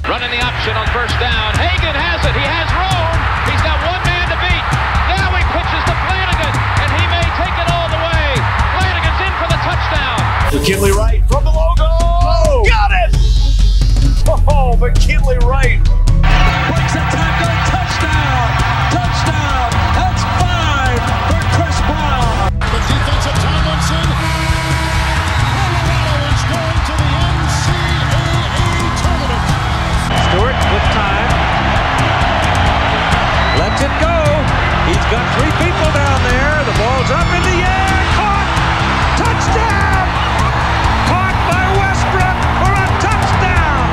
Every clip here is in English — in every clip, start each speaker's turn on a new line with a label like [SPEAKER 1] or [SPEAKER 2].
[SPEAKER 1] Running the option on first down. Hagan has it. He has room. He's got one man to beat. Now he pitches to Flanagan, and he may take it all the way. Flanagan's in for the touchdown.
[SPEAKER 2] McKinley Wright from the logo. Oh, got it! Oh, McKinley Wright.
[SPEAKER 3] Breaks a tackle. Touchdown. Touchdown. That's 5 for Chris Brown.
[SPEAKER 4] The defense of Tomlinson. Colorado is going to the NCAA tournament.
[SPEAKER 3] Stewart with time. Lets it go. He's got 3 people down there. The ball's up in the air. Caught. Touchdown. Caught by Westbrook for a touchdown.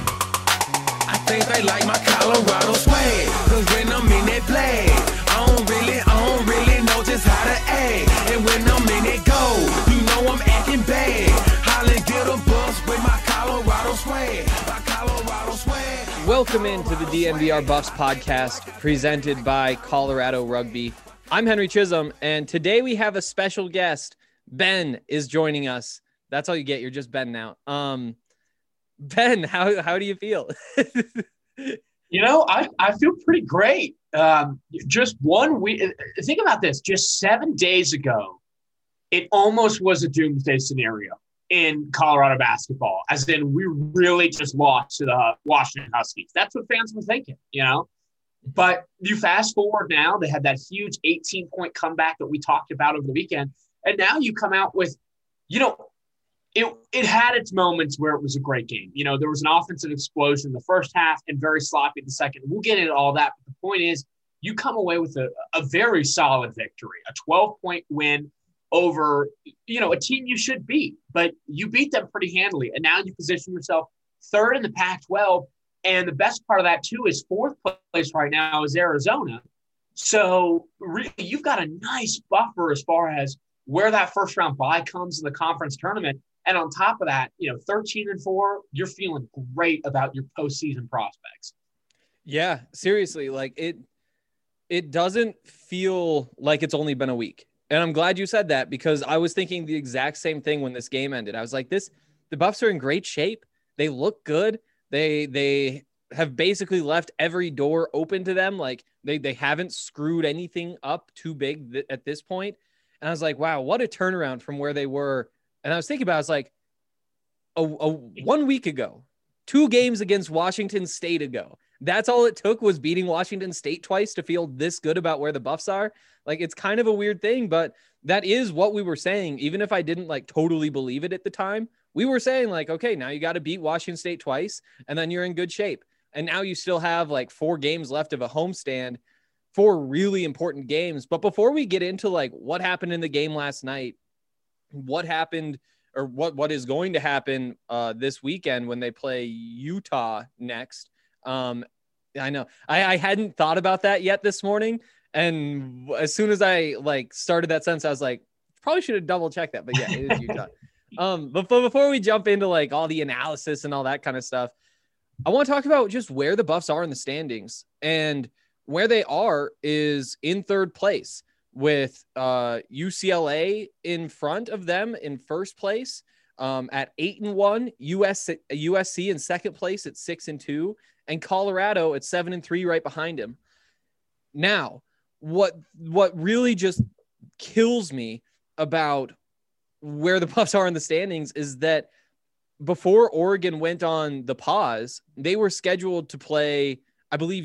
[SPEAKER 5] I think they like my Colorado swag. Cause when I'm in that play, I don't really know just how to act. And when I'm in it go, you know I'm acting bad. Holland get a bus with my Colorado swag. My Colorado swag.
[SPEAKER 6] Welcome into the DNVR Buffs podcast presented by Colorado Rugby. I'm Henry Chisholm, and today we have a special guest. Ben is joining us. That's all you get. You're just Ben now. Ben, how do you feel?
[SPEAKER 2] You know, I feel pretty great. Just 1 week. Think about this. Just 7 days ago, it almost was a doomsday scenario in Colorado basketball, as in we really just lost to the Washington Huskies. That's what fans were thinking, you know. But you fast forward now, they had that huge 18-point comeback that we talked about over the weekend, and now you come out with, you know, it had its moments where it was a great game. You know, there was an offensive explosion in the first half and very sloppy in the second. We'll get into all that, but the point is you come away with a very solid victory, a 12-point win over, you know, a team you should beat, but you beat them pretty handily. And now you position yourself third in the Pac-12. And the best part of that, too, is fourth place right now is Arizona. So really, you've got a nice buffer as far as where that first-round bye comes in the conference tournament. And on top of that, you know, 13-4, you're feeling great about your postseason prospects.
[SPEAKER 6] Yeah, seriously, like it doesn't feel like it's only been a week. And I'm glad you said that, because I was thinking the exact same thing when this game ended. I was like, the Buffs are in great shape. They look good. They have basically left every door open to them. Like they haven't screwed anything up too big at this point. And I was like, wow, what a turnaround from where they were. And I was thinking about, I was like, 1 week ago, 2 games against Washington State ago, that's all it took was beating Washington State twice to feel this good about where the Buffs are. Like, it's kind of a weird thing, but that is what we were saying. Even if I didn't like totally believe it at the time, we were saying like, okay, now you got to beat Washington State twice and then you're in good shape. And now you still have like 4 games left of a homestand, 4 really important games. But before we get into like what happened in the game last night, what happened or what is going to happen this weekend when they play Utah next. I know I hadn't thought about that yet this morning. And as soon as I like started that sentence, I was like, probably should have double checked that, but yeah, it is Utah. But before we jump into like all the analysis and all that kind of stuff, I want to talk about just where the Buffs are in the standings. And where they are is in third place, with UCLA in front of them in first place at 8-1, USC in second place at 6-2, and Colorado at 7-3 right behind him. Now, what really just kills me about where the Buffs are in the standings is that before Oregon went on the pause, they were scheduled to play, I believe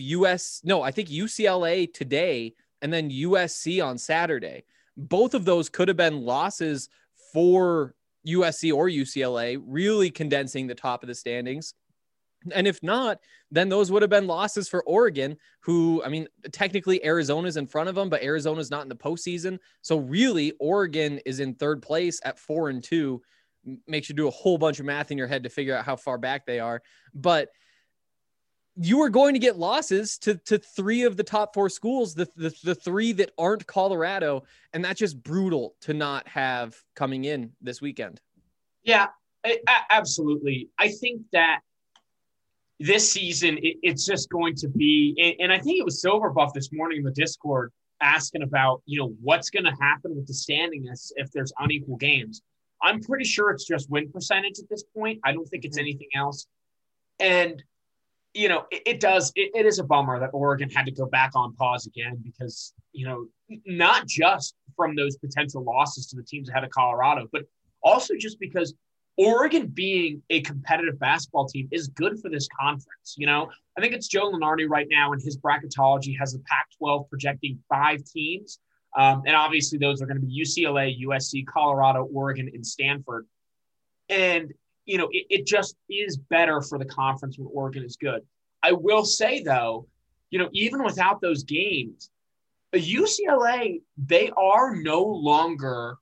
[SPEAKER 6] UCLA today and then USC on Saturday. Both of those could have been losses for USC or UCLA, really condensing the top of the standings. And if not, then those would have been losses for Oregon, who, I mean, technically Arizona's in front of them, but Arizona's not in the postseason. So really, Oregon is in third place at 4-2. Makes you do a whole bunch of math in your head to figure out how far back they are. But you are going to get losses to 3 of the top 4 schools, the 3 that aren't Colorado. And that's just brutal to not have coming in this weekend.
[SPEAKER 2] Yeah, absolutely. I think that this season, it's just going to be, and I think it was Silverbuff this morning in the Discord asking about, you know, what's going to happen with the standing if there's unequal games. I'm pretty sure it's just win percentage at this point. I don't think it's anything else. And it is a bummer that Oregon had to go back on pause again because, not just from those potential losses to the teams ahead of Colorado, but also just because Oregon being a competitive basketball team is good for this conference. I think it's Joe Lunardi right now in his bracketology has the Pac-12 projecting 5 teams. And obviously those are going to be UCLA, USC, Colorado, Oregon, and Stanford. And, it just is better for the conference when Oregon is good. I will say, though, even without those games, UCLA, they are no longer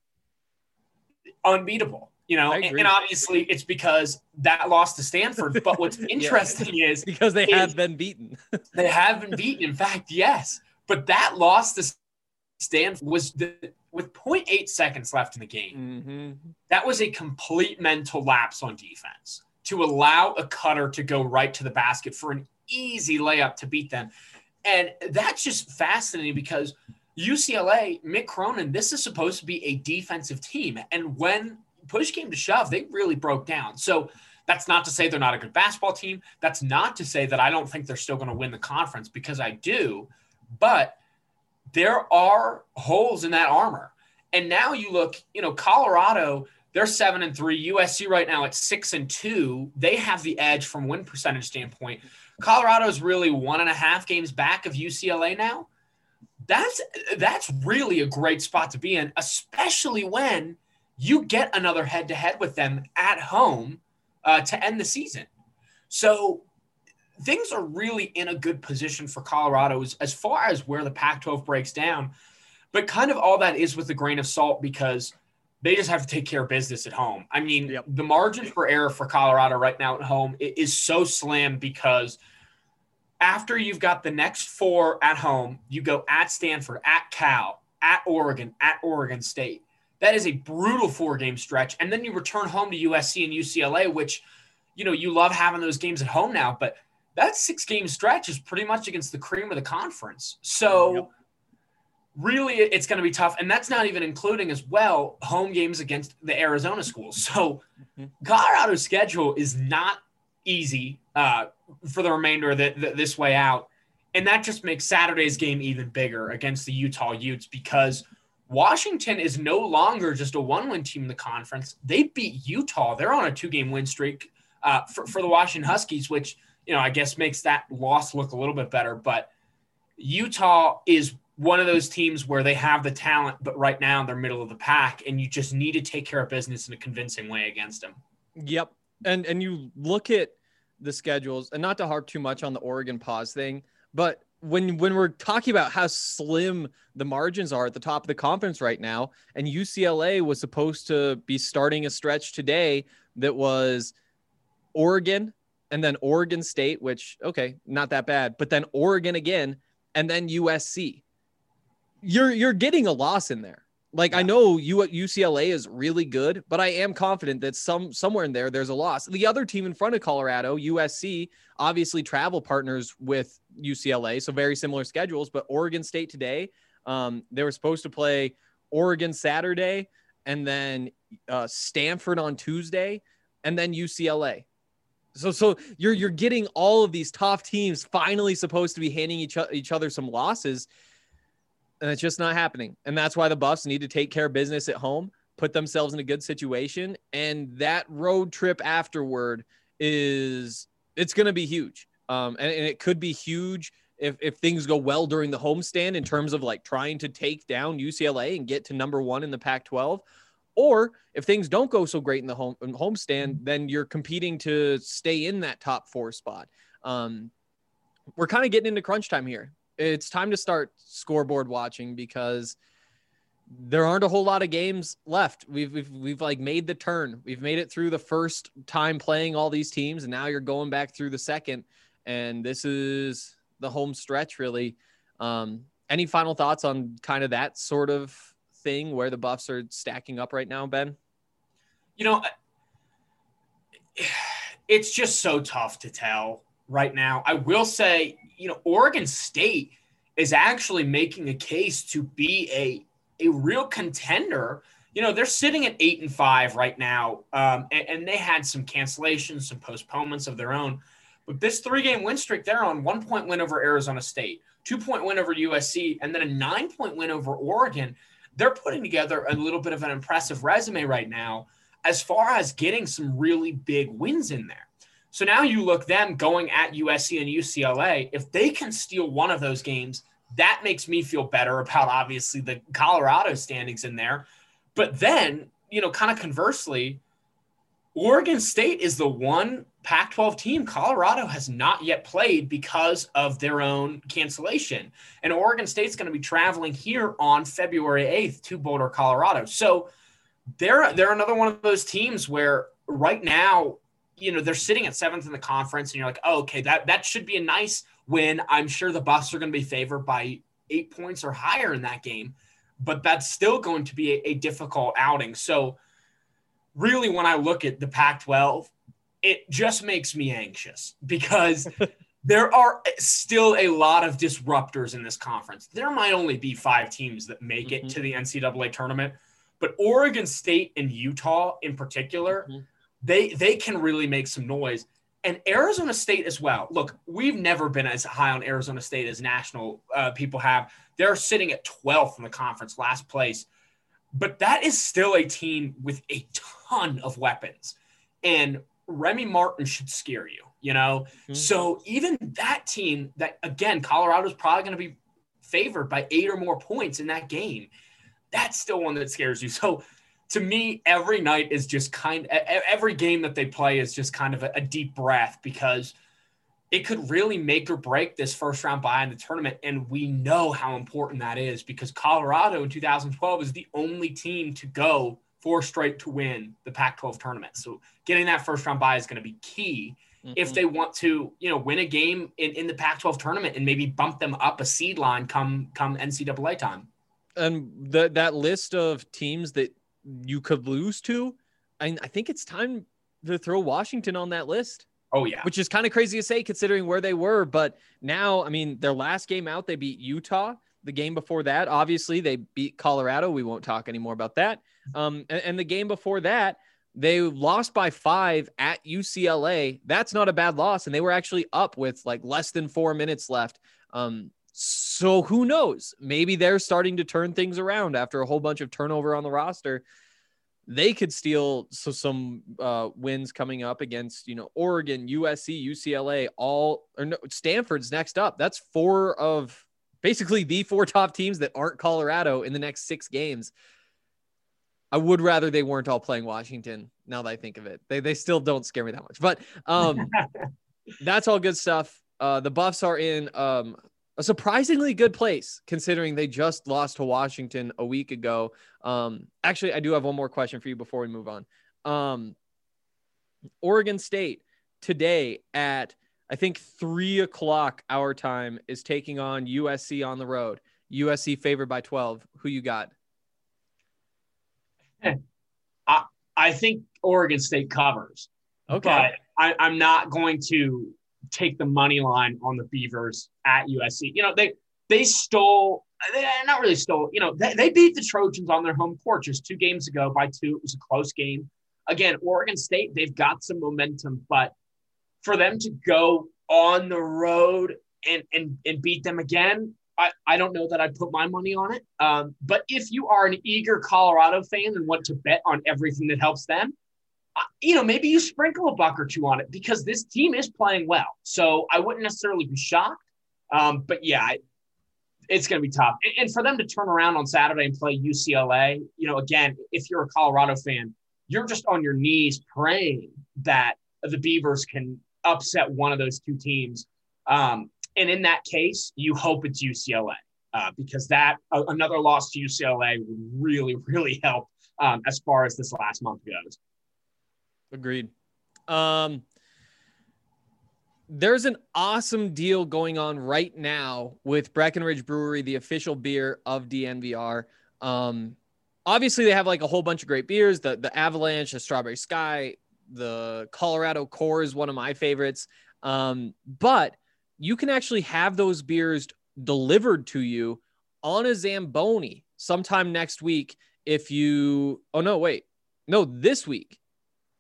[SPEAKER 2] unbeatable. And obviously it's because that loss to Stanford. But what's interesting is
[SPEAKER 6] because they have been beaten.
[SPEAKER 2] They have been beaten. In fact, yes. But that loss to Stanford was with 0.8 seconds left in the game.
[SPEAKER 6] Mm-hmm.
[SPEAKER 2] That was a complete mental lapse on defense to allow a cutter to go right to the basket for an easy layup to beat them. And that's just fascinating because UCLA, Mick Cronin, this is supposed to be a defensive team. And when push came to shove, they really broke down. So that's not to say they're not a good basketball team. That's not to say that I don't think they're still going to win the conference, because I do. But there are holes in that armor. And now you look, Colorado, they're 7-3. USC right now at 6-2. They have the edge from win percentage standpoint. Colorado's really 1.5 games back of UCLA now. That's really a great spot to be in, especially when you get another head-to-head with them at home to end the season. So things are really in a good position for Colorado as far as where the Pac-12 breaks down. But kind of all that is with a grain of salt because they just have to take care of business at home. I mean, The margin for error for Colorado right now at home is so slim because after you've got the next 4 at home, you go at Stanford, at Cal, at Oregon State. That is a brutal 4-game stretch. And then you return home to USC and UCLA, which, you love having those games at home now, but that 6-game stretch is pretty much against the cream of the conference. So really it's going to be tough. And that's not even including as well home games against the Arizona schools. So Colorado's schedule is not easy for the remainder of this way out. And that just makes Saturday's game even bigger against the Utah Utes because Washington is no longer just a 1-win team in the conference. They beat Utah. They're on a 2-game win streak for the Washington Huskies, which, I guess makes that loss look a little bit better. But Utah is one of those teams where they have the talent, but right now they're middle of the pack, and you just need to take care of business in a convincing way against them.
[SPEAKER 6] Yep. And you look at the schedules, and not to harp too much on the Oregon pause thing, but when we're talking about how slim the margins are at the top of the conference right now, and UCLA was supposed to be starting a stretch today that was Oregon and then Oregon State, which, okay, not that bad, but then Oregon again, and then USC. You're getting a loss in there. Like, I know UCLA is really good, but I am confident that somewhere in there's a loss. The other team in front of Colorado, USC, obviously travel partners with UCLA, so very similar schedules. But Oregon State today, they were supposed to play Oregon Saturday, and then Stanford on Tuesday, and then UCLA. So you're getting all of these tough teams finally supposed to be handing each other some losses. And it's just not happening. And that's why the Buffs need to take care of business at home, put themselves in a good situation. And that road trip afterward it's going to be huge. And it could be huge if things go well during the homestand in terms of like trying to take down UCLA and get to number 1 in the Pac-12. Or if things don't go so great in the homestand, then you're competing to stay in that top 4 spot. We're kind of getting into crunch time here. It's time to start scoreboard watching because there aren't a whole lot of games left. We've like made the turn. We've made it through the first time playing all these teams, and now you're going back through the second, and this is the home stretch really. Any final thoughts on kind of that sort of thing where the Buffs are stacking up right now, Ben?
[SPEAKER 2] It's just so tough to tell right now. I will say, Oregon State is actually making a case to be a real contender. They're sitting at 8-5 right now, and they had some cancellations, some postponements of their own. But this 3-game win streak, they're on 1-point win over Arizona State, 2-point win over USC, and then a 9-point win over Oregon. They're putting together a little bit of an impressive resume right now as far as getting some really big wins in there. So now you look them going at USC and UCLA. If they can steal one of those games, that makes me feel better about obviously the Colorado standings in there. But then, kind of conversely, Oregon State is the one Pac-12 team Colorado has not yet played because of their own cancellation. And Oregon State's going to be traveling here on February 8th to Boulder, Colorado. So they're another one of those teams where right now, they're sitting at 7th in the conference, and you're like, oh, okay, that should be a nice win. I'm sure the Buffs are going to be favored by 8 points or higher in that game, but that's still going to be a difficult outing. So really, when I look at the Pac-12, it just makes me anxious because there are still a lot of disruptors in this conference. There might only be 5 teams that make it to the NCAA tournament, but Oregon State and Utah in particular, they can really make some noise. And Arizona State as well. Look, we've never been as high on Arizona State as national people have. They're sitting at 12th in the conference, last place. But that is still a team with a ton of weapons. And Remy Martin should scare you, So even that team that, again, Colorado's probably going to be favored by 8 or more points in that game. That's still one that scares you. So to me, every night is just every game that they play is just kind of a deep breath because it could really make or break this first round bye in the tournament. And we know how important that is because Colorado in 2012 is the only team to go 4 straight to win the Pac-12 tournament. So getting that first round bye is going to be key if they want to, win a game in the Pac-12 tournament and maybe bump them up a seed line come NCAA time.
[SPEAKER 6] And that list of teams that you could lose to, I think it's time to throw Washington on that list.
[SPEAKER 2] Oh, yeah.
[SPEAKER 6] Which is kind of crazy to say considering where they were. But now, their last game out, they beat Utah. The game before that, obviously, they beat Colorado. We won't talk anymore about that. And the game before that, they lost by 5 at UCLA. That's not a bad loss. And they were actually up with like less than 4 minutes left. So who knows? Maybe they're starting to turn things around after a whole bunch of turnover on the roster. They could steal some wins coming up against, Oregon, USC, UCLA, Stanford's next up. That's 4 of basically the 4 top teams that aren't Colorado in the next 6 games. I would rather they weren't all playing Washington now that I think of it. They still don't scare me that much, but that's all good stuff. The Buffs are in a surprisingly good place considering they just lost to Washington a week ago. Actually, I do have one more question for you before we move on. Oregon State today at, I think 3:00 our time is taking on USC on the road. USC favored by 12. Who you got?
[SPEAKER 2] I think Oregon State covers.
[SPEAKER 6] Okay.
[SPEAKER 2] But I'm not going to take the money line on the Beavers at USC. They stole – not really stole. They beat the Trojans on their home court just 2 games ago by 2. It was a close game. Again, Oregon State, they've got some momentum, but for them to go on the road and beat them again, I don't know that I'd put my money on it. But if you are an eager Colorado fan and want to bet on everything that helps them, maybe you sprinkle a buck or 2 on it because this team is playing well. So I wouldn't necessarily be shocked. But yeah, it's going to be tough. And for them to turn around on Saturday and play UCLA, again, if you're a Colorado fan, you're just on your knees praying that the Beavers can upset one of those 2 teams. And in that case, you hope it's UCLA because another loss to UCLA would really, really help as far as this last month goes.
[SPEAKER 6] Agreed. There's an awesome deal going on right now with Breckenridge Brewery, the official beer of DNVR. Obviously, they have like a whole bunch of great beers. The Avalanche, the Strawberry Sky, the Colorado Core is one of my favorites. But you can actually have those beers delivered to you on a Zamboni sometime next week. This week.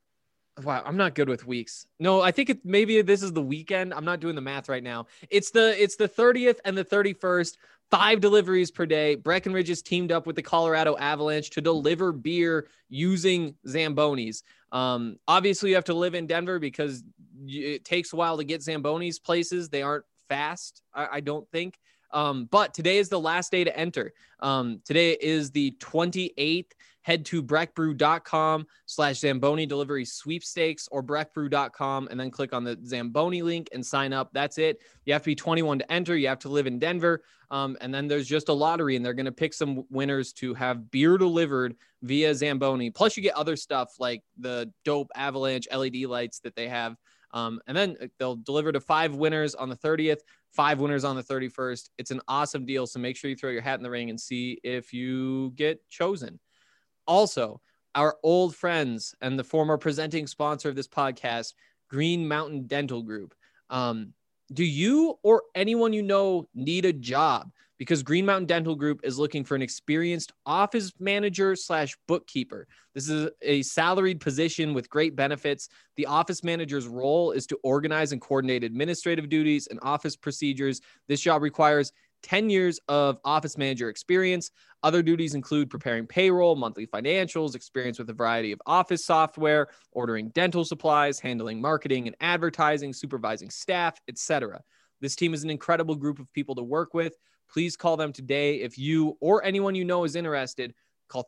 [SPEAKER 6] Wow, I'm not good with weeks. No, I think maybe this is the weekend. I'm not doing the math right now. It's the 30th and the 31st. 5 deliveries per day. Breckenridge is teamed up with the Colorado Avalanche to deliver beer using Zambonis. Obviously, you have to live in Denver because it takes a while to get Zambonis places. They aren't fast, I don't think. But today is the last day to enter. Today is the 28th. Head to breckbrew.com/Zamboni delivery sweepstakes or breckbrew.com and then click on the Zamboni link and sign up. That's it. You have to be 21 to enter. You have to live in Denver. And then there's just a lottery and they're going to pick some winners to have beer delivered via Zamboni. Plus you get other stuff like the dope Avalanche LED lights that they have. And then they'll deliver to 5 winners on the 30th, 5 winners on the 31st. It's an awesome deal. So make sure you throw your hat in the ring and see if you get chosen. Also, our old friends and the former presenting sponsor of this podcast, Green Mountain Dental Group. Do you or anyone you know need a job? Because Green Mountain Dental Group is looking for an experienced office manager / bookkeeper. This is a salaried position with great benefits. The office manager's role is to organize and coordinate administrative duties and office procedures. This job requires 10 years of office manager experience. Other duties include preparing payroll, monthly financials, experience with a variety of office software, ordering dental supplies, handling marketing and advertising, supervising staff, etc. This team is an incredible group of people to work with. Please call them today. If you or anyone you know is interested, call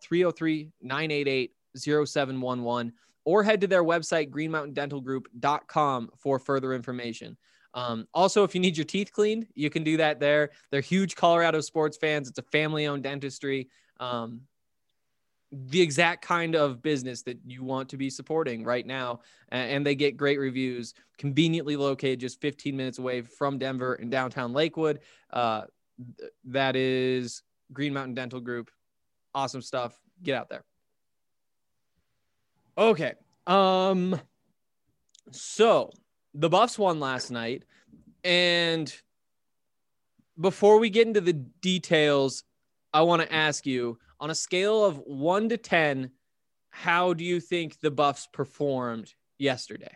[SPEAKER 6] 303-988-0711 or head to their website, greenmountaindentalgroup.com for further information. Also, if you need your teeth cleaned, you can do that there. They're huge Colorado sports fans. It's a family-owned dentistry. The exact kind of business that you want to be supporting right now. And they get great reviews, conveniently located just 15 minutes away from Denver in downtown Lakewood. That is Green Mountain Dental Group. Awesome stuff. Get out there. Okay. So the Buffs won last night, and before we get into the details, I want to ask you, on a scale of 1 to 10, how do you think the Buffs performed yesterday?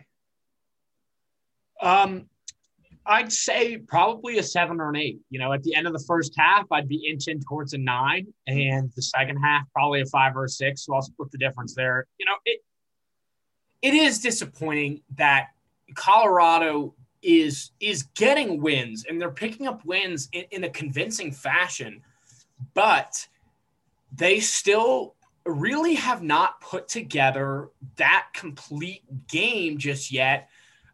[SPEAKER 2] I'd say probably a 7 or an 8. You know, at the end of the first half, I'd be inching towards a 9, and the second half, probably a 5 or a 6. So I'll split the difference there. You know, it is disappointing that Colorado is getting wins, and they're picking up wins in a convincing fashion, but they still really have not put together that complete game just yet.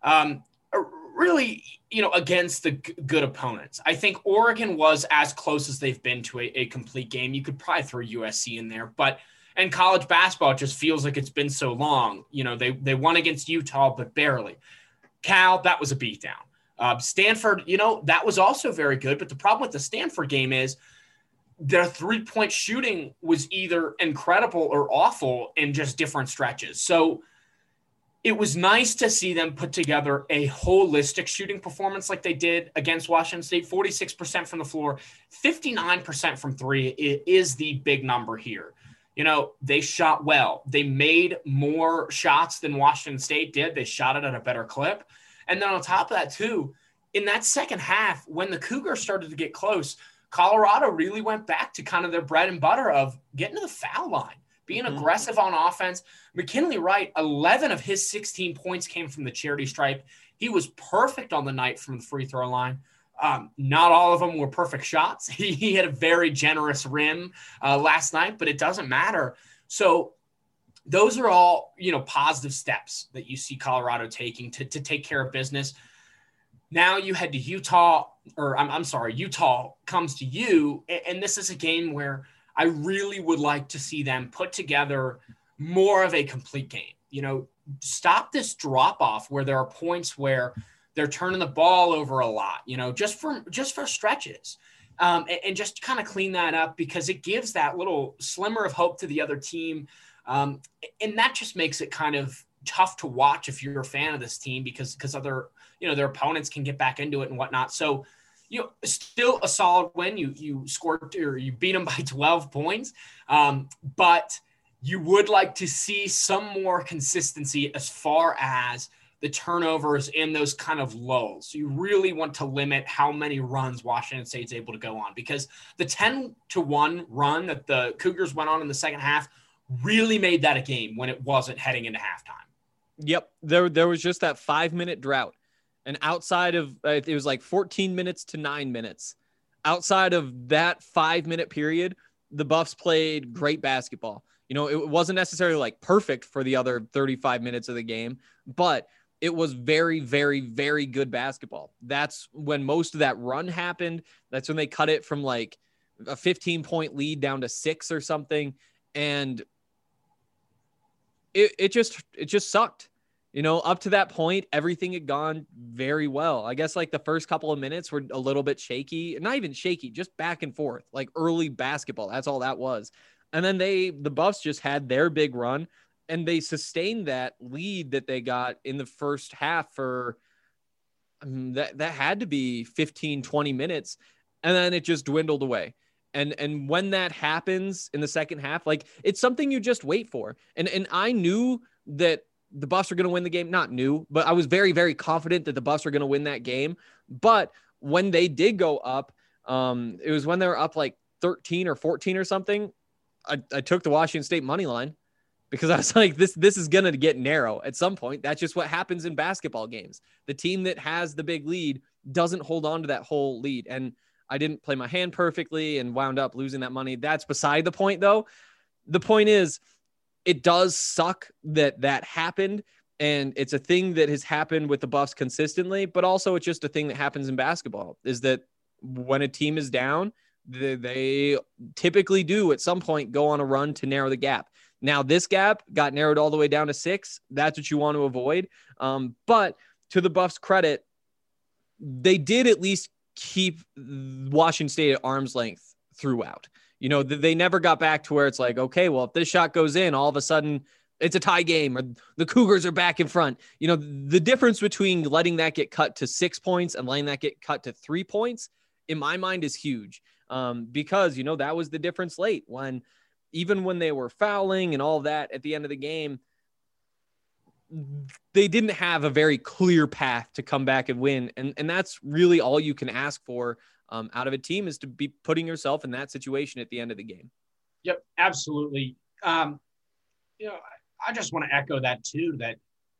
[SPEAKER 2] Really, you know, against the good opponents. I think Oregon was as close as they've been to a complete game. You could probably throw USC in there, and college basketball just feels like it's been so long. You know, they won against Utah, but barely. Cal, that was a beatdown. Stanford, you know, that was also very good. But the problem with the Stanford game is their 3-point shooting was either incredible or awful in just different stretches. So it was nice to see them put together a holistic shooting performance like they did against Washington State. 46% from the floor, 59% from 3 is the big number here. You know, they shot well. They made more shots than Washington State did. They shot it at a better clip. And then on top of that, too, in that second half, when the Cougars started to get close, Colorado really went back to kind of their bread and butter of getting to the foul line, being aggressive on offense. McKinley Wright, 11 of his 16 points came from the charity stripe. He was perfect on the night from the free throw line. Not all of them were perfect shots. He had a very generous rim last night, but it doesn't matter. So those are all, you know, positive steps that you see Colorado taking to take care of business. Now you head to Utah, or I'm sorry, Utah comes to you. And this is a game where I really would like to see them put together more of a complete game. You know, stop this drop off where there are points where they're turning the ball over a lot, you know, just for stretches, and just kind of clean that up, because it gives that little slimmer of hope to the other team. And that just makes it kind of tough to watch if you're a fan of this team, because other, you know, their opponents can get back into it and whatnot. So, you know, still a solid win. You scored, or you beat them by 12 points. But you would like to see some more consistency as far as the turnovers and those kind of lulls. You really want to limit how many runs Washington State's able to go on, because the 10-1 run that the Cougars went on in the second half really made that a game when it wasn't heading into halftime.
[SPEAKER 6] Yep. There was just that 5-minute drought. And outside of, it was like 14 minutes to 9 minutes. Outside of that 5-minute period, the Buffs played great basketball. You know, it wasn't necessarily like perfect for the other 35 minutes of the game, but it was very, very, very good basketball. That's when most of that run happened. That's when they cut it from like a 15-point lead down to 6 or something. And it just sucked. You know, up to that point, everything had gone very well. I guess like the first couple of minutes were a little bit shaky, not even shaky, just back and forth, like early basketball. That's all that was. And then the Buffs just had their big run, and they sustained that lead that they got in the first half for that had to be 15, 20 minutes. And then it just dwindled away. And when that happens in the second half, like it's something you just wait for. And I knew that the Buffs are going to win the game. Not new, but I was very, very confident that the Buffs are going to win that game. But when they did go up, it was when they were up like 13 or 14 or something. I took the Washington State money line because I was like, this is going to get narrow at some point. That's just what happens in basketball games. The team that has the big lead doesn't hold on to that whole lead. And I didn't play my hand perfectly and wound up losing that money. That's beside the point, though. The point is, it does suck that happened, and it's a thing that has happened with the Buffs consistently, but also it's just a thing that happens in basketball, is that when a team is down, they typically do at some point go on a run to narrow the gap. Now, this gap got narrowed all the way down to 6. That's what you want to avoid. But to the Buffs' credit, they did at least keep Washington State at arm's length throughout. You know, they never got back to where it's like, okay, well, if this shot goes in, all of a sudden it's a tie game or the Cougars are back in front. You know, the difference between letting that get cut to 6 points and letting that get cut to 3 points, in my mind, is huge. Because, you know, that was the difference late when even when they were fouling and all that at the end of the game, they didn't have a very clear path to come back and win. And that's really all you can ask for out of a team, is to be putting yourself in that situation at the end of the game.
[SPEAKER 2] Yep, absolutely. You know, I just want to echo that too, that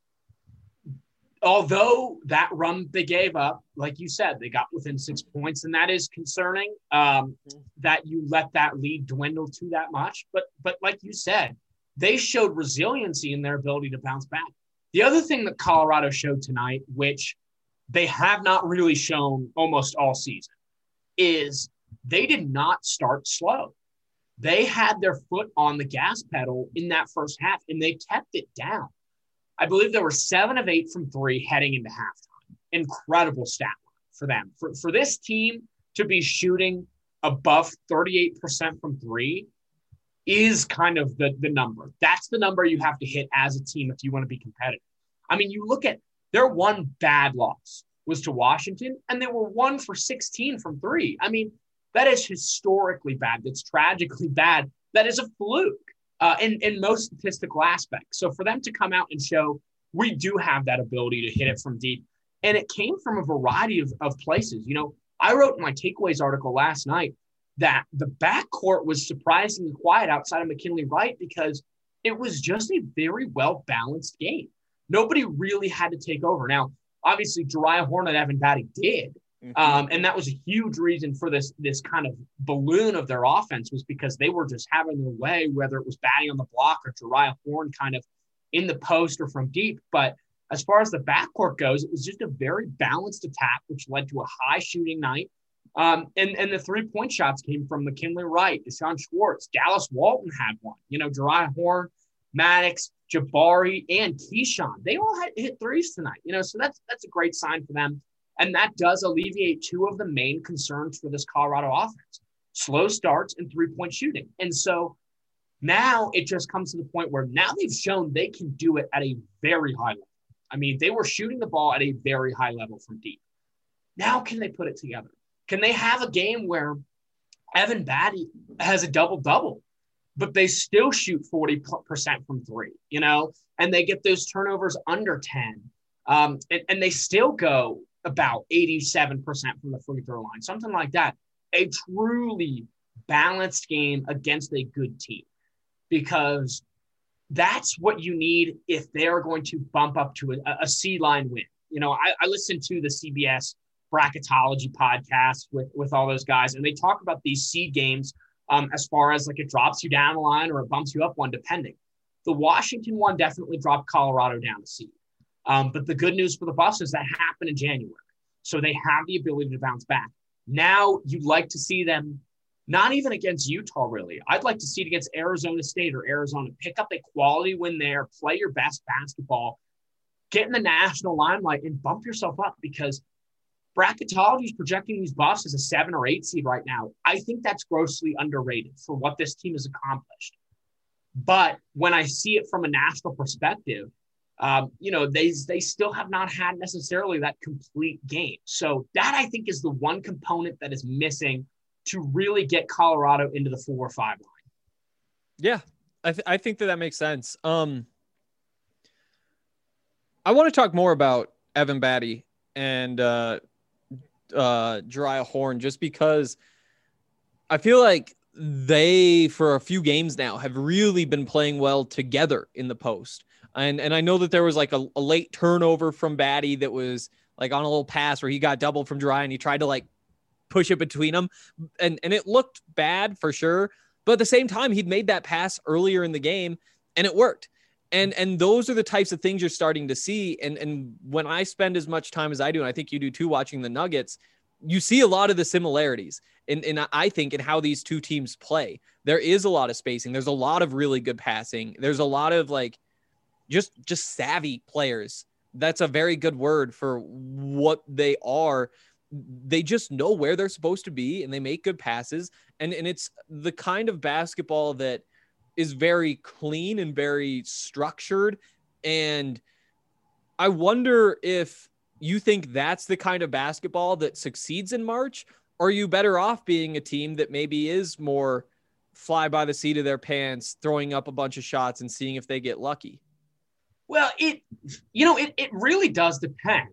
[SPEAKER 2] although that run they gave up, like you said, they got within 6 points, and that is concerning that you let that lead dwindle to that much. But like you said, they showed resiliency in their ability to bounce back. The other thing that Colorado showed tonight, which they have not really shown almost all season, is they did not start slow. They had their foot on the gas pedal in that first half, and they kept it down. I believe there were 7 of 8 from 3 heading into halftime. Incredible stat line for them. For this team to be shooting above 38% from 3 is kind of the number. That's the number you have to hit as a team if you want to be competitive. I mean, you look at their one bad loss was to Washington, and they were 1 for 16 from 3. I mean, that is historically bad. That's tragically bad. That is a fluke in most statistical aspects. So for them to come out and show we do have that ability to hit it from deep, and it came from a variety of places. You know, I wrote in my takeaways article last night that the backcourt was surprisingly quiet outside of McKinley Wright because it was just a very well-balanced game. Nobody really had to take over. Now, obviously, Jariah Horn and Evan Batty did. And that was a huge reason for this kind of balloon of their offense, was because they were just having their way, whether it was Batty on the block or Jariah Horn kind of in the post or from deep. But as far as the backcourt goes, it was just a very balanced attack, which led to a high shooting night. And the 3-point shots came from McKinley Wright, Deshaun Schwartz, Dallas Walton had one. You know, Jariah Horn, Maddox, Jabari, and Keyshawn. They all had hit threes tonight. You know, so that's a great sign for them. And that does alleviate 2 of the main concerns for this Colorado offense: slow starts and 3-point shooting. And so now it just comes to the point where now they've shown they can do it at a very high level. I mean, they were shooting the ball at a very high level from deep. Now can they put it together? Can they have a game where Evan Batty has a double-double? but they still shoot 40% from three, and they get those turnovers under 10. And they still go about 87% from the free throw line, something like that. A truly balanced game against a good team, because that's what you need if they're going to bump up to a seed line win. I listened to the CBS bracketology podcast with all those guys, and they talk about these seed games as far as like it drops you down a line or it bumps you up one, depending. The Washington one definitely dropped Colorado down a seed. But the good news for the Buffs is that happened in January. So they have the ability to bounce back. Now you'd like to see them, not even against Utah, really. I'd like to see it against Arizona State or Arizona. Pick up a quality win there, play your best basketball, get in the national limelight, and bump yourself up, because bracketology is projecting these Buffs as a 7 or 8 seed right now. I think that's grossly underrated for what this team has accomplished. But when I see it from a national perspective, they still have not had necessarily that complete game. So that, I think, is the one component that is missing to really get Colorado into the 4 or 5 line.
[SPEAKER 6] Yeah, I think that makes sense. I want to talk more about Evan Batty and Jeriah Horne, just because I feel like they, for a few games now, have really been playing well together in the post. And I know that there was like a late turnover from Batty that was like on a little pass where he got doubled from Jeriah and he tried to like push it between them. And it looked bad for sure. But at the same time, he'd made that pass earlier in the game and it worked. And those are the types of things you're starting to see. And when I spend as much time as I do, and I think you do too, watching the Nuggets, you see a lot of the similarities in I think in how these two teams play. There is a lot of spacing. There's a lot of really good passing. There's a lot of like just savvy players. That's a very good word for what they are. They just know where they're supposed to be and they make good passes. And it's the kind of basketball that is very clean and very structured. And I wonder if you think that's the kind of basketball that succeeds in March, or are you better off being a team that maybe is more fly by the seat of their pants, throwing up a bunch of shots and seeing if they get lucky?
[SPEAKER 2] Well, it really does depend.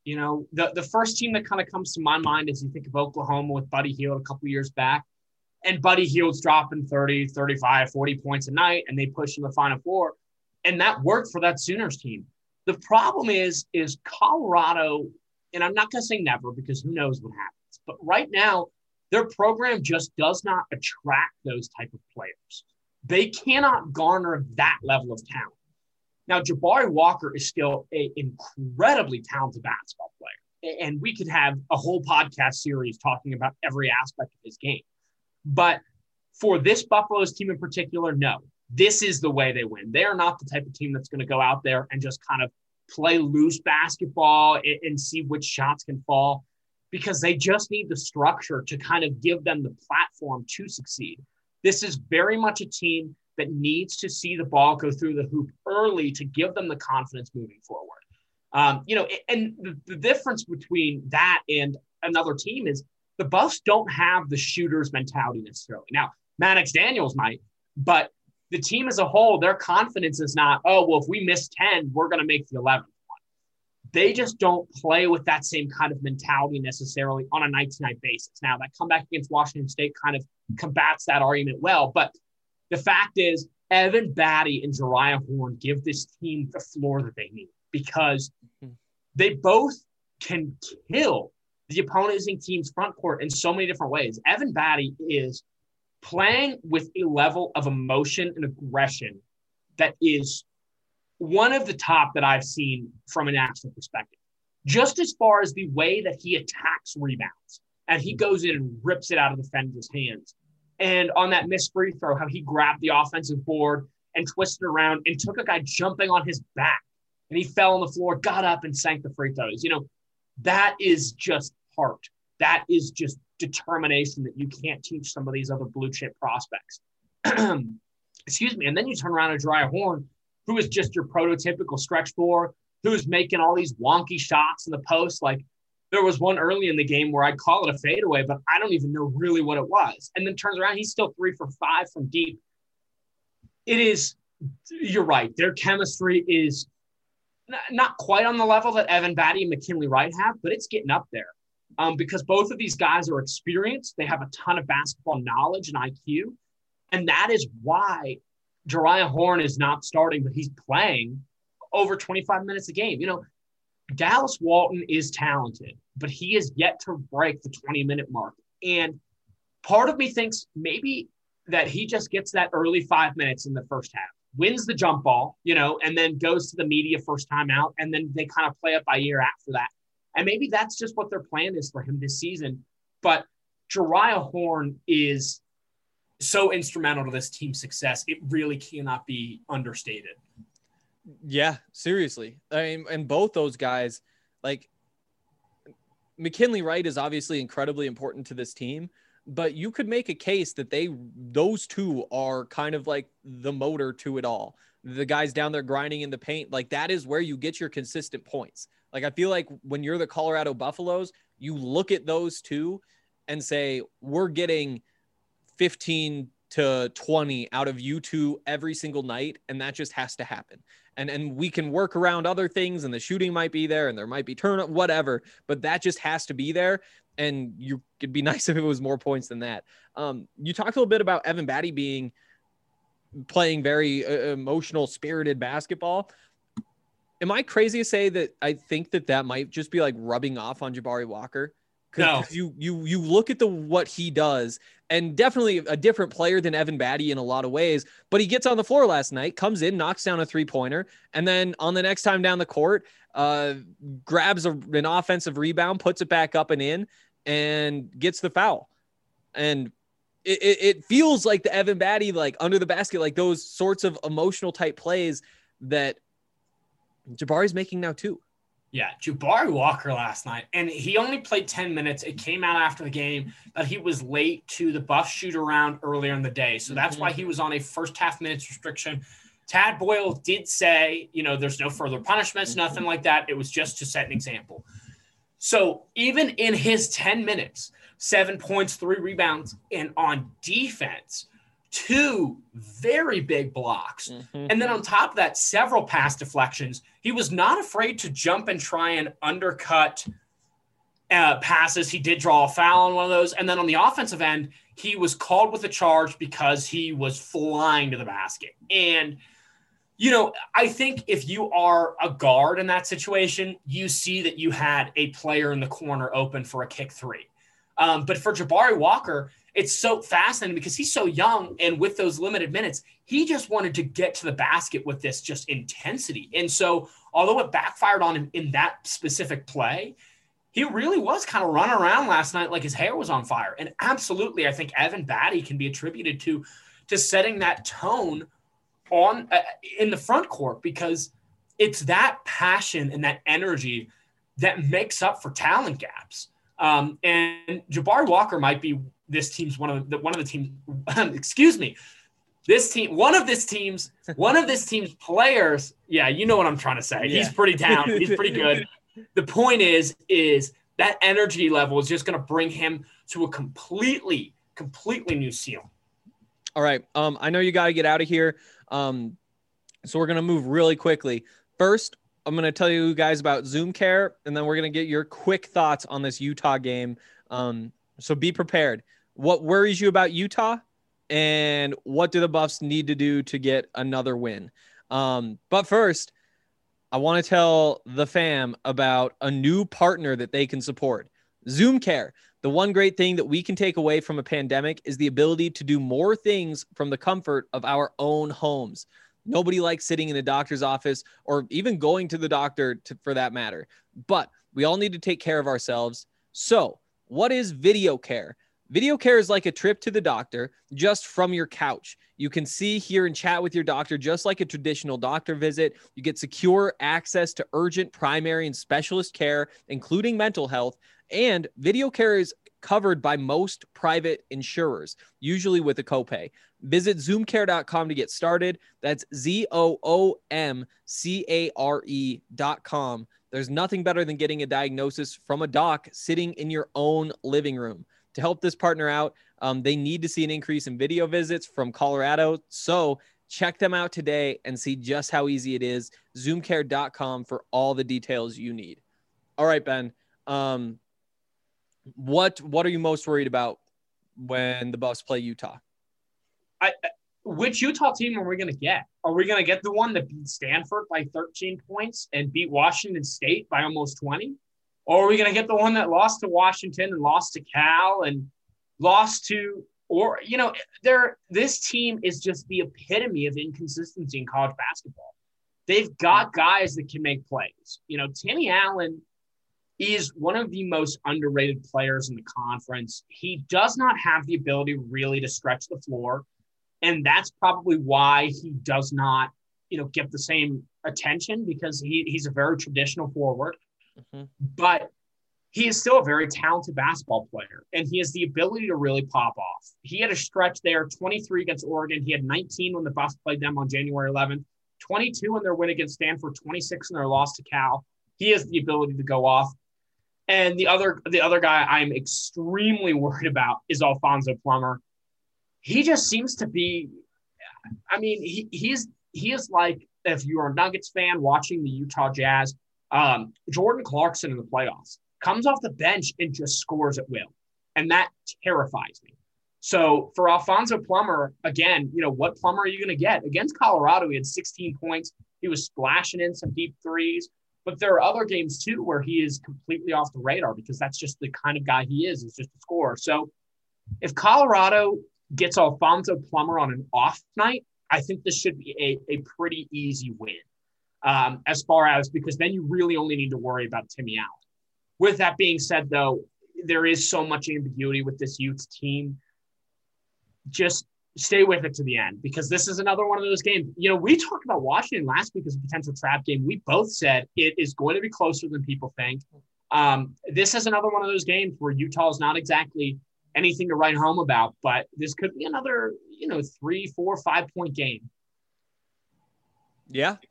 [SPEAKER 2] The first team that kind of comes to my mind is you think of Oklahoma with Buddy Hield a couple years back, and Buddy Hield's dropping 30, 35, 40 points a night, and they push in the Final Four, and that worked for that Sooners team. The problem is Colorado, and I'm not going to say never because who knows what happens, but right now their program just does not attract those type of players. They cannot garner that level of talent. Now, Jabari Walker is still an incredibly talented basketball player, and we could have a whole podcast series talking about every aspect of his game. But for this Buffalo's team in particular, no. This is the way they win. They are not the type of team that's going to go out there and just kind of play loose basketball and see which shots can fall, because they just need the structure to kind of give them the platform to succeed. This is very much a team that needs to see the ball go through the hoop early to give them the confidence moving forward. And the difference between that and another team is the Buffs don't have the shooter's mentality necessarily. Now, Maddox Daniels might, but the team as a whole, their confidence is not, oh, well, if we miss 10, we're going to make the 11th one. They just don't play with that same kind of mentality necessarily on a night-to-night basis. Now, that comeback against Washington State kind of combats that argument well, but the fact is Evan Batty and Jeriah Horne give this team the floor that they need, because they both can kill the opposing team's front court in so many different ways. Evan Batty is playing with a level of emotion and aggression that is one of the top that I've seen from a national perspective. Just as far as the way that he attacks rebounds and he goes in and rips it out of the defender's hands. And on that missed free throw, how he grabbed the offensive board and twisted around and took a guy jumping on his back, and he fell on the floor, got up and sank the free throws. That is just heart. That is just determination that you can't teach some of these other blue chip prospects. Excuse me. And then you turn around to Jeriah Horne, who is just your prototypical stretch four, who is making all these wonky shots in the post. Like, there was one early in the game where I'd call it a fadeaway, but I don't even know really what it was. And then turns around, he's still 3 for 5 from deep. It is, you're right. Their chemistry is not quite on the level that Evan Batty and McKinley Wright have, but it's getting up there. Because both of these guys are experienced. They have a ton of basketball knowledge and IQ. And that is why Jeriah Horn is not starting, but he's playing over 25 minutes a game. Dallas Walton is talented, but he is yet to break the 20-minute mark. And part of me thinks maybe that he just gets that early 5 minutes in the first half, wins the jump ball, and then goes to the media first time out, and then they kind of play it by ear after that. And maybe that's just what their plan is for him this season. But Jeriah Horn is so instrumental to this team's success. It really cannot be understated.
[SPEAKER 6] Yeah, seriously. I mean, and both those guys, like McKinley Wright is obviously incredibly important to this team, but you could make a case that those two are kind of like the motor to it all. The guys down there grinding in the paint, like that is where you get your consistent points. Like, I feel like when you're the Colorado Buffaloes, you look at those two and say, we're getting 15 to 20 out of you two every single night. And that just has to happen. And we can work around other things, and the shooting might be there and there might be turn-up, whatever, but that just has to be there. And it'd be nice if it was more points than that. You talked a little bit about Evan Batty playing very emotional, spirited basketball. Am I crazy to say that I think that might just be like rubbing off on Jabari Walker?
[SPEAKER 2] No.
[SPEAKER 6] You look at what he does, and definitely a different player than Evan Batty in a lot of ways, but he gets on the floor last night, comes in, knocks down a 3-pointer, and then on the next time down the court, grabs an offensive rebound, puts it back up and in, and gets the foul. And it feels like the Evan Batty, like under the basket, like those sorts of emotional type plays that Jabari's making now too.
[SPEAKER 2] Yeah, Jabari Walker last night, and he only played 10 minutes. It came out after the game that he was late to the Buff shoot-around earlier in the day, so that's why he was on a first-half minutes restriction. Tad Boyle did say, there's no further punishments, nothing like that. It was just to set an example. So even in his 10 minutes, 7 points, 3 rebounds, and on defense, 2 very big blocks. And then on top of that, several pass deflections. He was not afraid to jump and try and undercut passes. He did draw a foul on one of those. And then on the offensive end, he was called with a charge because he was flying to the basket. And, I think if you are a guard in that situation, you see that you had a player in the corner open for a kick 3. But for Jabari Walker, it's so fascinating because he's so young, and with those limited minutes, he just wanted to get to the basket with this just intensity. And so although it backfired on him in that specific play, he really was kind of running around last night like his hair was on fire. And absolutely, I think Evan Batty can be attributed to setting that tone on in the front court, because it's that passion and that energy that makes up for talent gaps. And Jabari Walker might be this team's one of the teams. Excuse me. One of this team's players. Yeah, you know what I'm trying to say. Yeah. He's pretty talented. He's pretty good. The point is that energy level is just going to bring him to a completely new ceiling.
[SPEAKER 6] All right. I know you got to get out of here. So we're going to move really quickly. First, I'm going to tell you guys about Zoom Care, and then we're going to get your quick thoughts on this Utah game. So be prepared. What worries you about Utah, and what do the Buffs need to do to get another win? But first, I want to tell the fam about a new partner that they can support. Zoom Care. The one great thing that we can take away from a pandemic is the ability to do more things from the comfort of our own homes. Nobody likes sitting in a doctor's office or even going to the doctor for that matter. But we all need to take care of ourselves. So what is Video Care? Video Care is like a trip to the doctor just from your couch. You can see, hear, and chat with your doctor just like a traditional doctor visit. You get secure access to urgent, primary, and specialist care, including mental health. And Video Care is covered by most private insurers, usually with a copay. Visit zoomcare.com to get started. That's ZOOMCARE.com. There's nothing better than getting a diagnosis from a doc sitting in your own living room. To help this partner out, they need to see an increase in video visits from Colorado. So Check them out today and see just how easy it is. Zoomcare.com for all the details you need. All right, Ben. What are you most worried about when the Buffs play Utah?
[SPEAKER 2] Which Utah team are we going to get? Are we going to get the one that beat Stanford by 13 points and beat Washington State by almost 20? Or are we going to get the one that lost to Washington and lost to Cal and lost to – or, you know, this team is just the epitome of inconsistency in college basketball. They've got guys that can make plays. You know, Timmy Allen is one of the most underrated players in the conference. He does not have the ability really to stretch the floor. And that's probably why he does not, you know, get the same attention, because he's a very traditional forward. Mm-hmm. But he is still a very talented basketball player, and he has the ability to really pop off. He had a stretch there, 23 against Oregon. He had 19 when the Buffs played them on January 11th, 22 in their win against Stanford, 26 in their loss to Cal. He has the ability to go off. And the other guy I'm extremely worried about is Alfonso Plummer. He just seems to be, I mean, he is like, if you're a Nuggets fan watching the Utah Jazz, Jordan Clarkson in the playoffs, comes off the bench and just scores at will. And that terrifies me. So for Alfonso Plummer, again, you know, what Plummer are you going to get? Against Colorado, he had 16 points. He was splashing in some deep threes. But there are other games, too, where he is completely off the radar, because that's just the kind of guy he is just a scorer. So if Colorado gets Alfonso Plummer on an off night, I think this should be a pretty easy win. As far as, because then you really only need to worry about Timmy Allen. With that being said, though, there is so much ambiguity with this Utes team. Just stay with it to the end, because this is another one of those games. You know, we talked about Washington last week as a potential trap game. We both said it is going to be closer than people think. This is another one of those games where Utah is not exactly anything to write home about, but this could be another, 3, 4, 5 point game.
[SPEAKER 6] Yeah.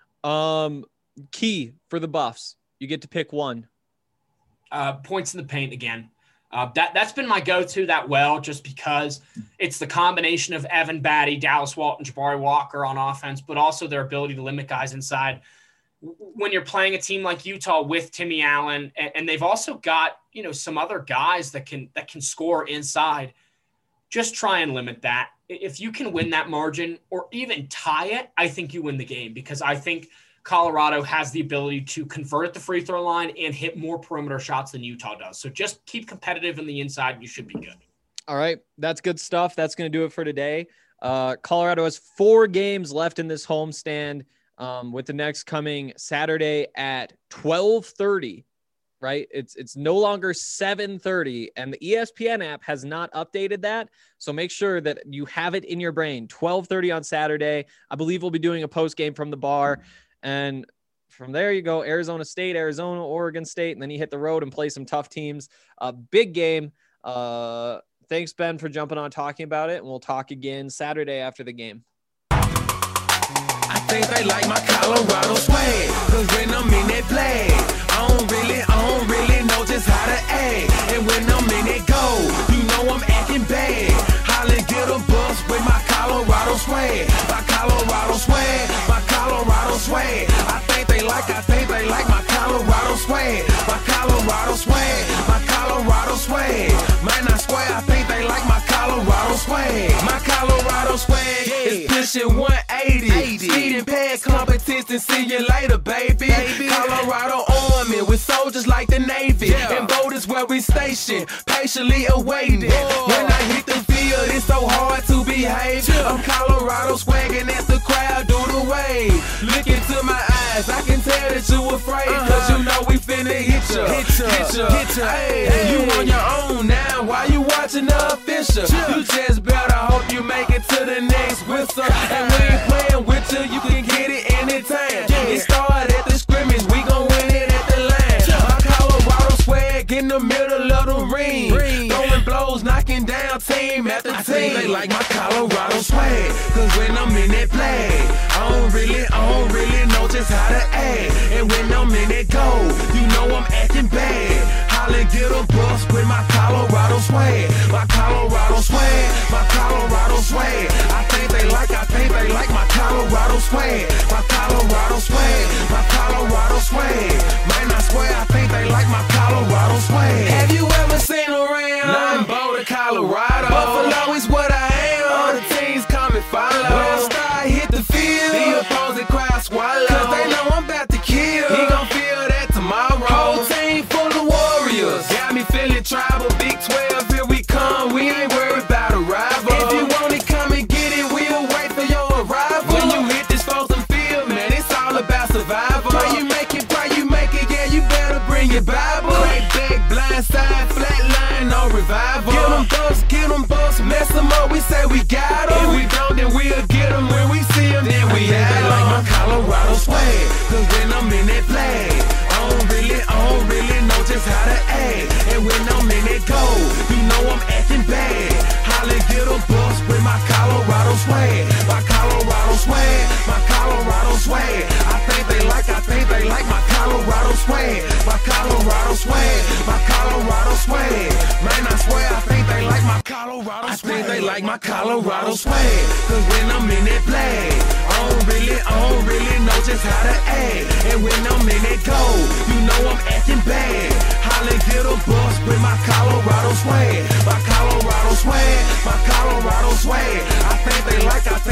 [SPEAKER 6] Key for the Buffs. You get to pick one.
[SPEAKER 2] Points in the paint again. That's been my go-to that well, just because it's the combination of Evan Batty, Dallas Walton, Jabari Walker on offense, but also their ability to limit guys inside. When you're playing a team like Utah with Timmy Allen, and they've also got, some other guys that can score inside, just try and limit that. If you can win that margin or even tie it, I think you win the game, because I think Colorado has the ability to convert at the free throw line and hit more perimeter shots than Utah does. So just keep competitive in the inside, and you should be good.
[SPEAKER 6] All right. That's good stuff. That's going to do it for today. Colorado has 4 games left in this homestand, with the next coming Saturday at 12:30, right? It's no longer 7:30, and the ESPN app has not updated that. So make sure that you have it in your brain. 12:30 on Saturday. I believe we'll be doing a post game from the bar. And from there you go Arizona State, Arizona, Oregon State, and then you hit the road and play some tough teams. Big game. Thanks, Ben, for jumping on talking about it, and we'll talk again Saturday after the game.
[SPEAKER 5] I think they like my Colorado swag, cause when I'm in that play, I don't really know just how to act. And when I'm in that go, you know I'm acting bad. Holla, get a bus with my Colorado swag. My Colorado swag, my Colorado swag. I think they like my Colorado swag. My Colorado swag, my Colorado swag. Man, I swear I think they like my Colorado swag. My Colorado swag is pushing 180. Speed and pad competition, see you later, baby. Colorado Army with soldiers like the Navy. And boat is where we station, patiently awaiting. When I hit the field, it's so hard to behave. I'm Colorado swagging as the crowd do the wave. Look into my eyes, I can tell that you afraid. Cause you know we finna hit ya. Hey, you on your own now, why you watching the official? You just better hope you make it to the next whistle. And we ain't playing with you can get it anytime. It started at the scrimmage, we gon' win it at the line. My Colorado swag in the middle of the ring. Throwing blows, knocking down team after team. I think they like my Colorado swag, cause when I'm in that play, I don't really know just how to act. And when I'm in that go, you know I'm acting bad. Holla, get a bus with my Colorado swag. My Colorado swag, my Colorado swag. I think they like Colorado swag, my Colorado swag, my Colorado swag. Man, I swear I think they like my Colorado swag. Have you ever seen around? Nothing but Colorado. Buffalo is what I am. All the teams come and follow. When I start hit the field, the opposing crowd swallow. Cause they know I'm about to kill. He gon' feel that tomorrow. Whole team full of warriors. Got me feeling tribal. Big 12, here we come. We ain't worried about a rival. If you want it, come and get it. We'll wait for your arrival. When you hit this frozen field, man, it's all about survival. Pray you make it, yeah, you better bring your Bible. Crack back, blind side, flat line, no revival. Get them bucks, mess them up, we say we got them. If we don't, then we'll get them. When we see them, then we have them. Like my Colorado swag, cause when I'm in that flag, I don't really know just how to act. And when I'm in that goal, you know I'm acting bad. Holly get a bus with my Colorado swag, my Colorado swag, my Colorado swag. I think they like my Colorado swag, my Colorado swag, my Colorado swag. Man, I swear I think they like my Colorado swag. I think they like my Colorado swag, cause when I'm in that flag, I don't really know just how to act. And when I'm in that goal, you know I'm acting bad. Holly get a bus with my Colorado swag, my Colorado swag, my Colorado swag. I think they like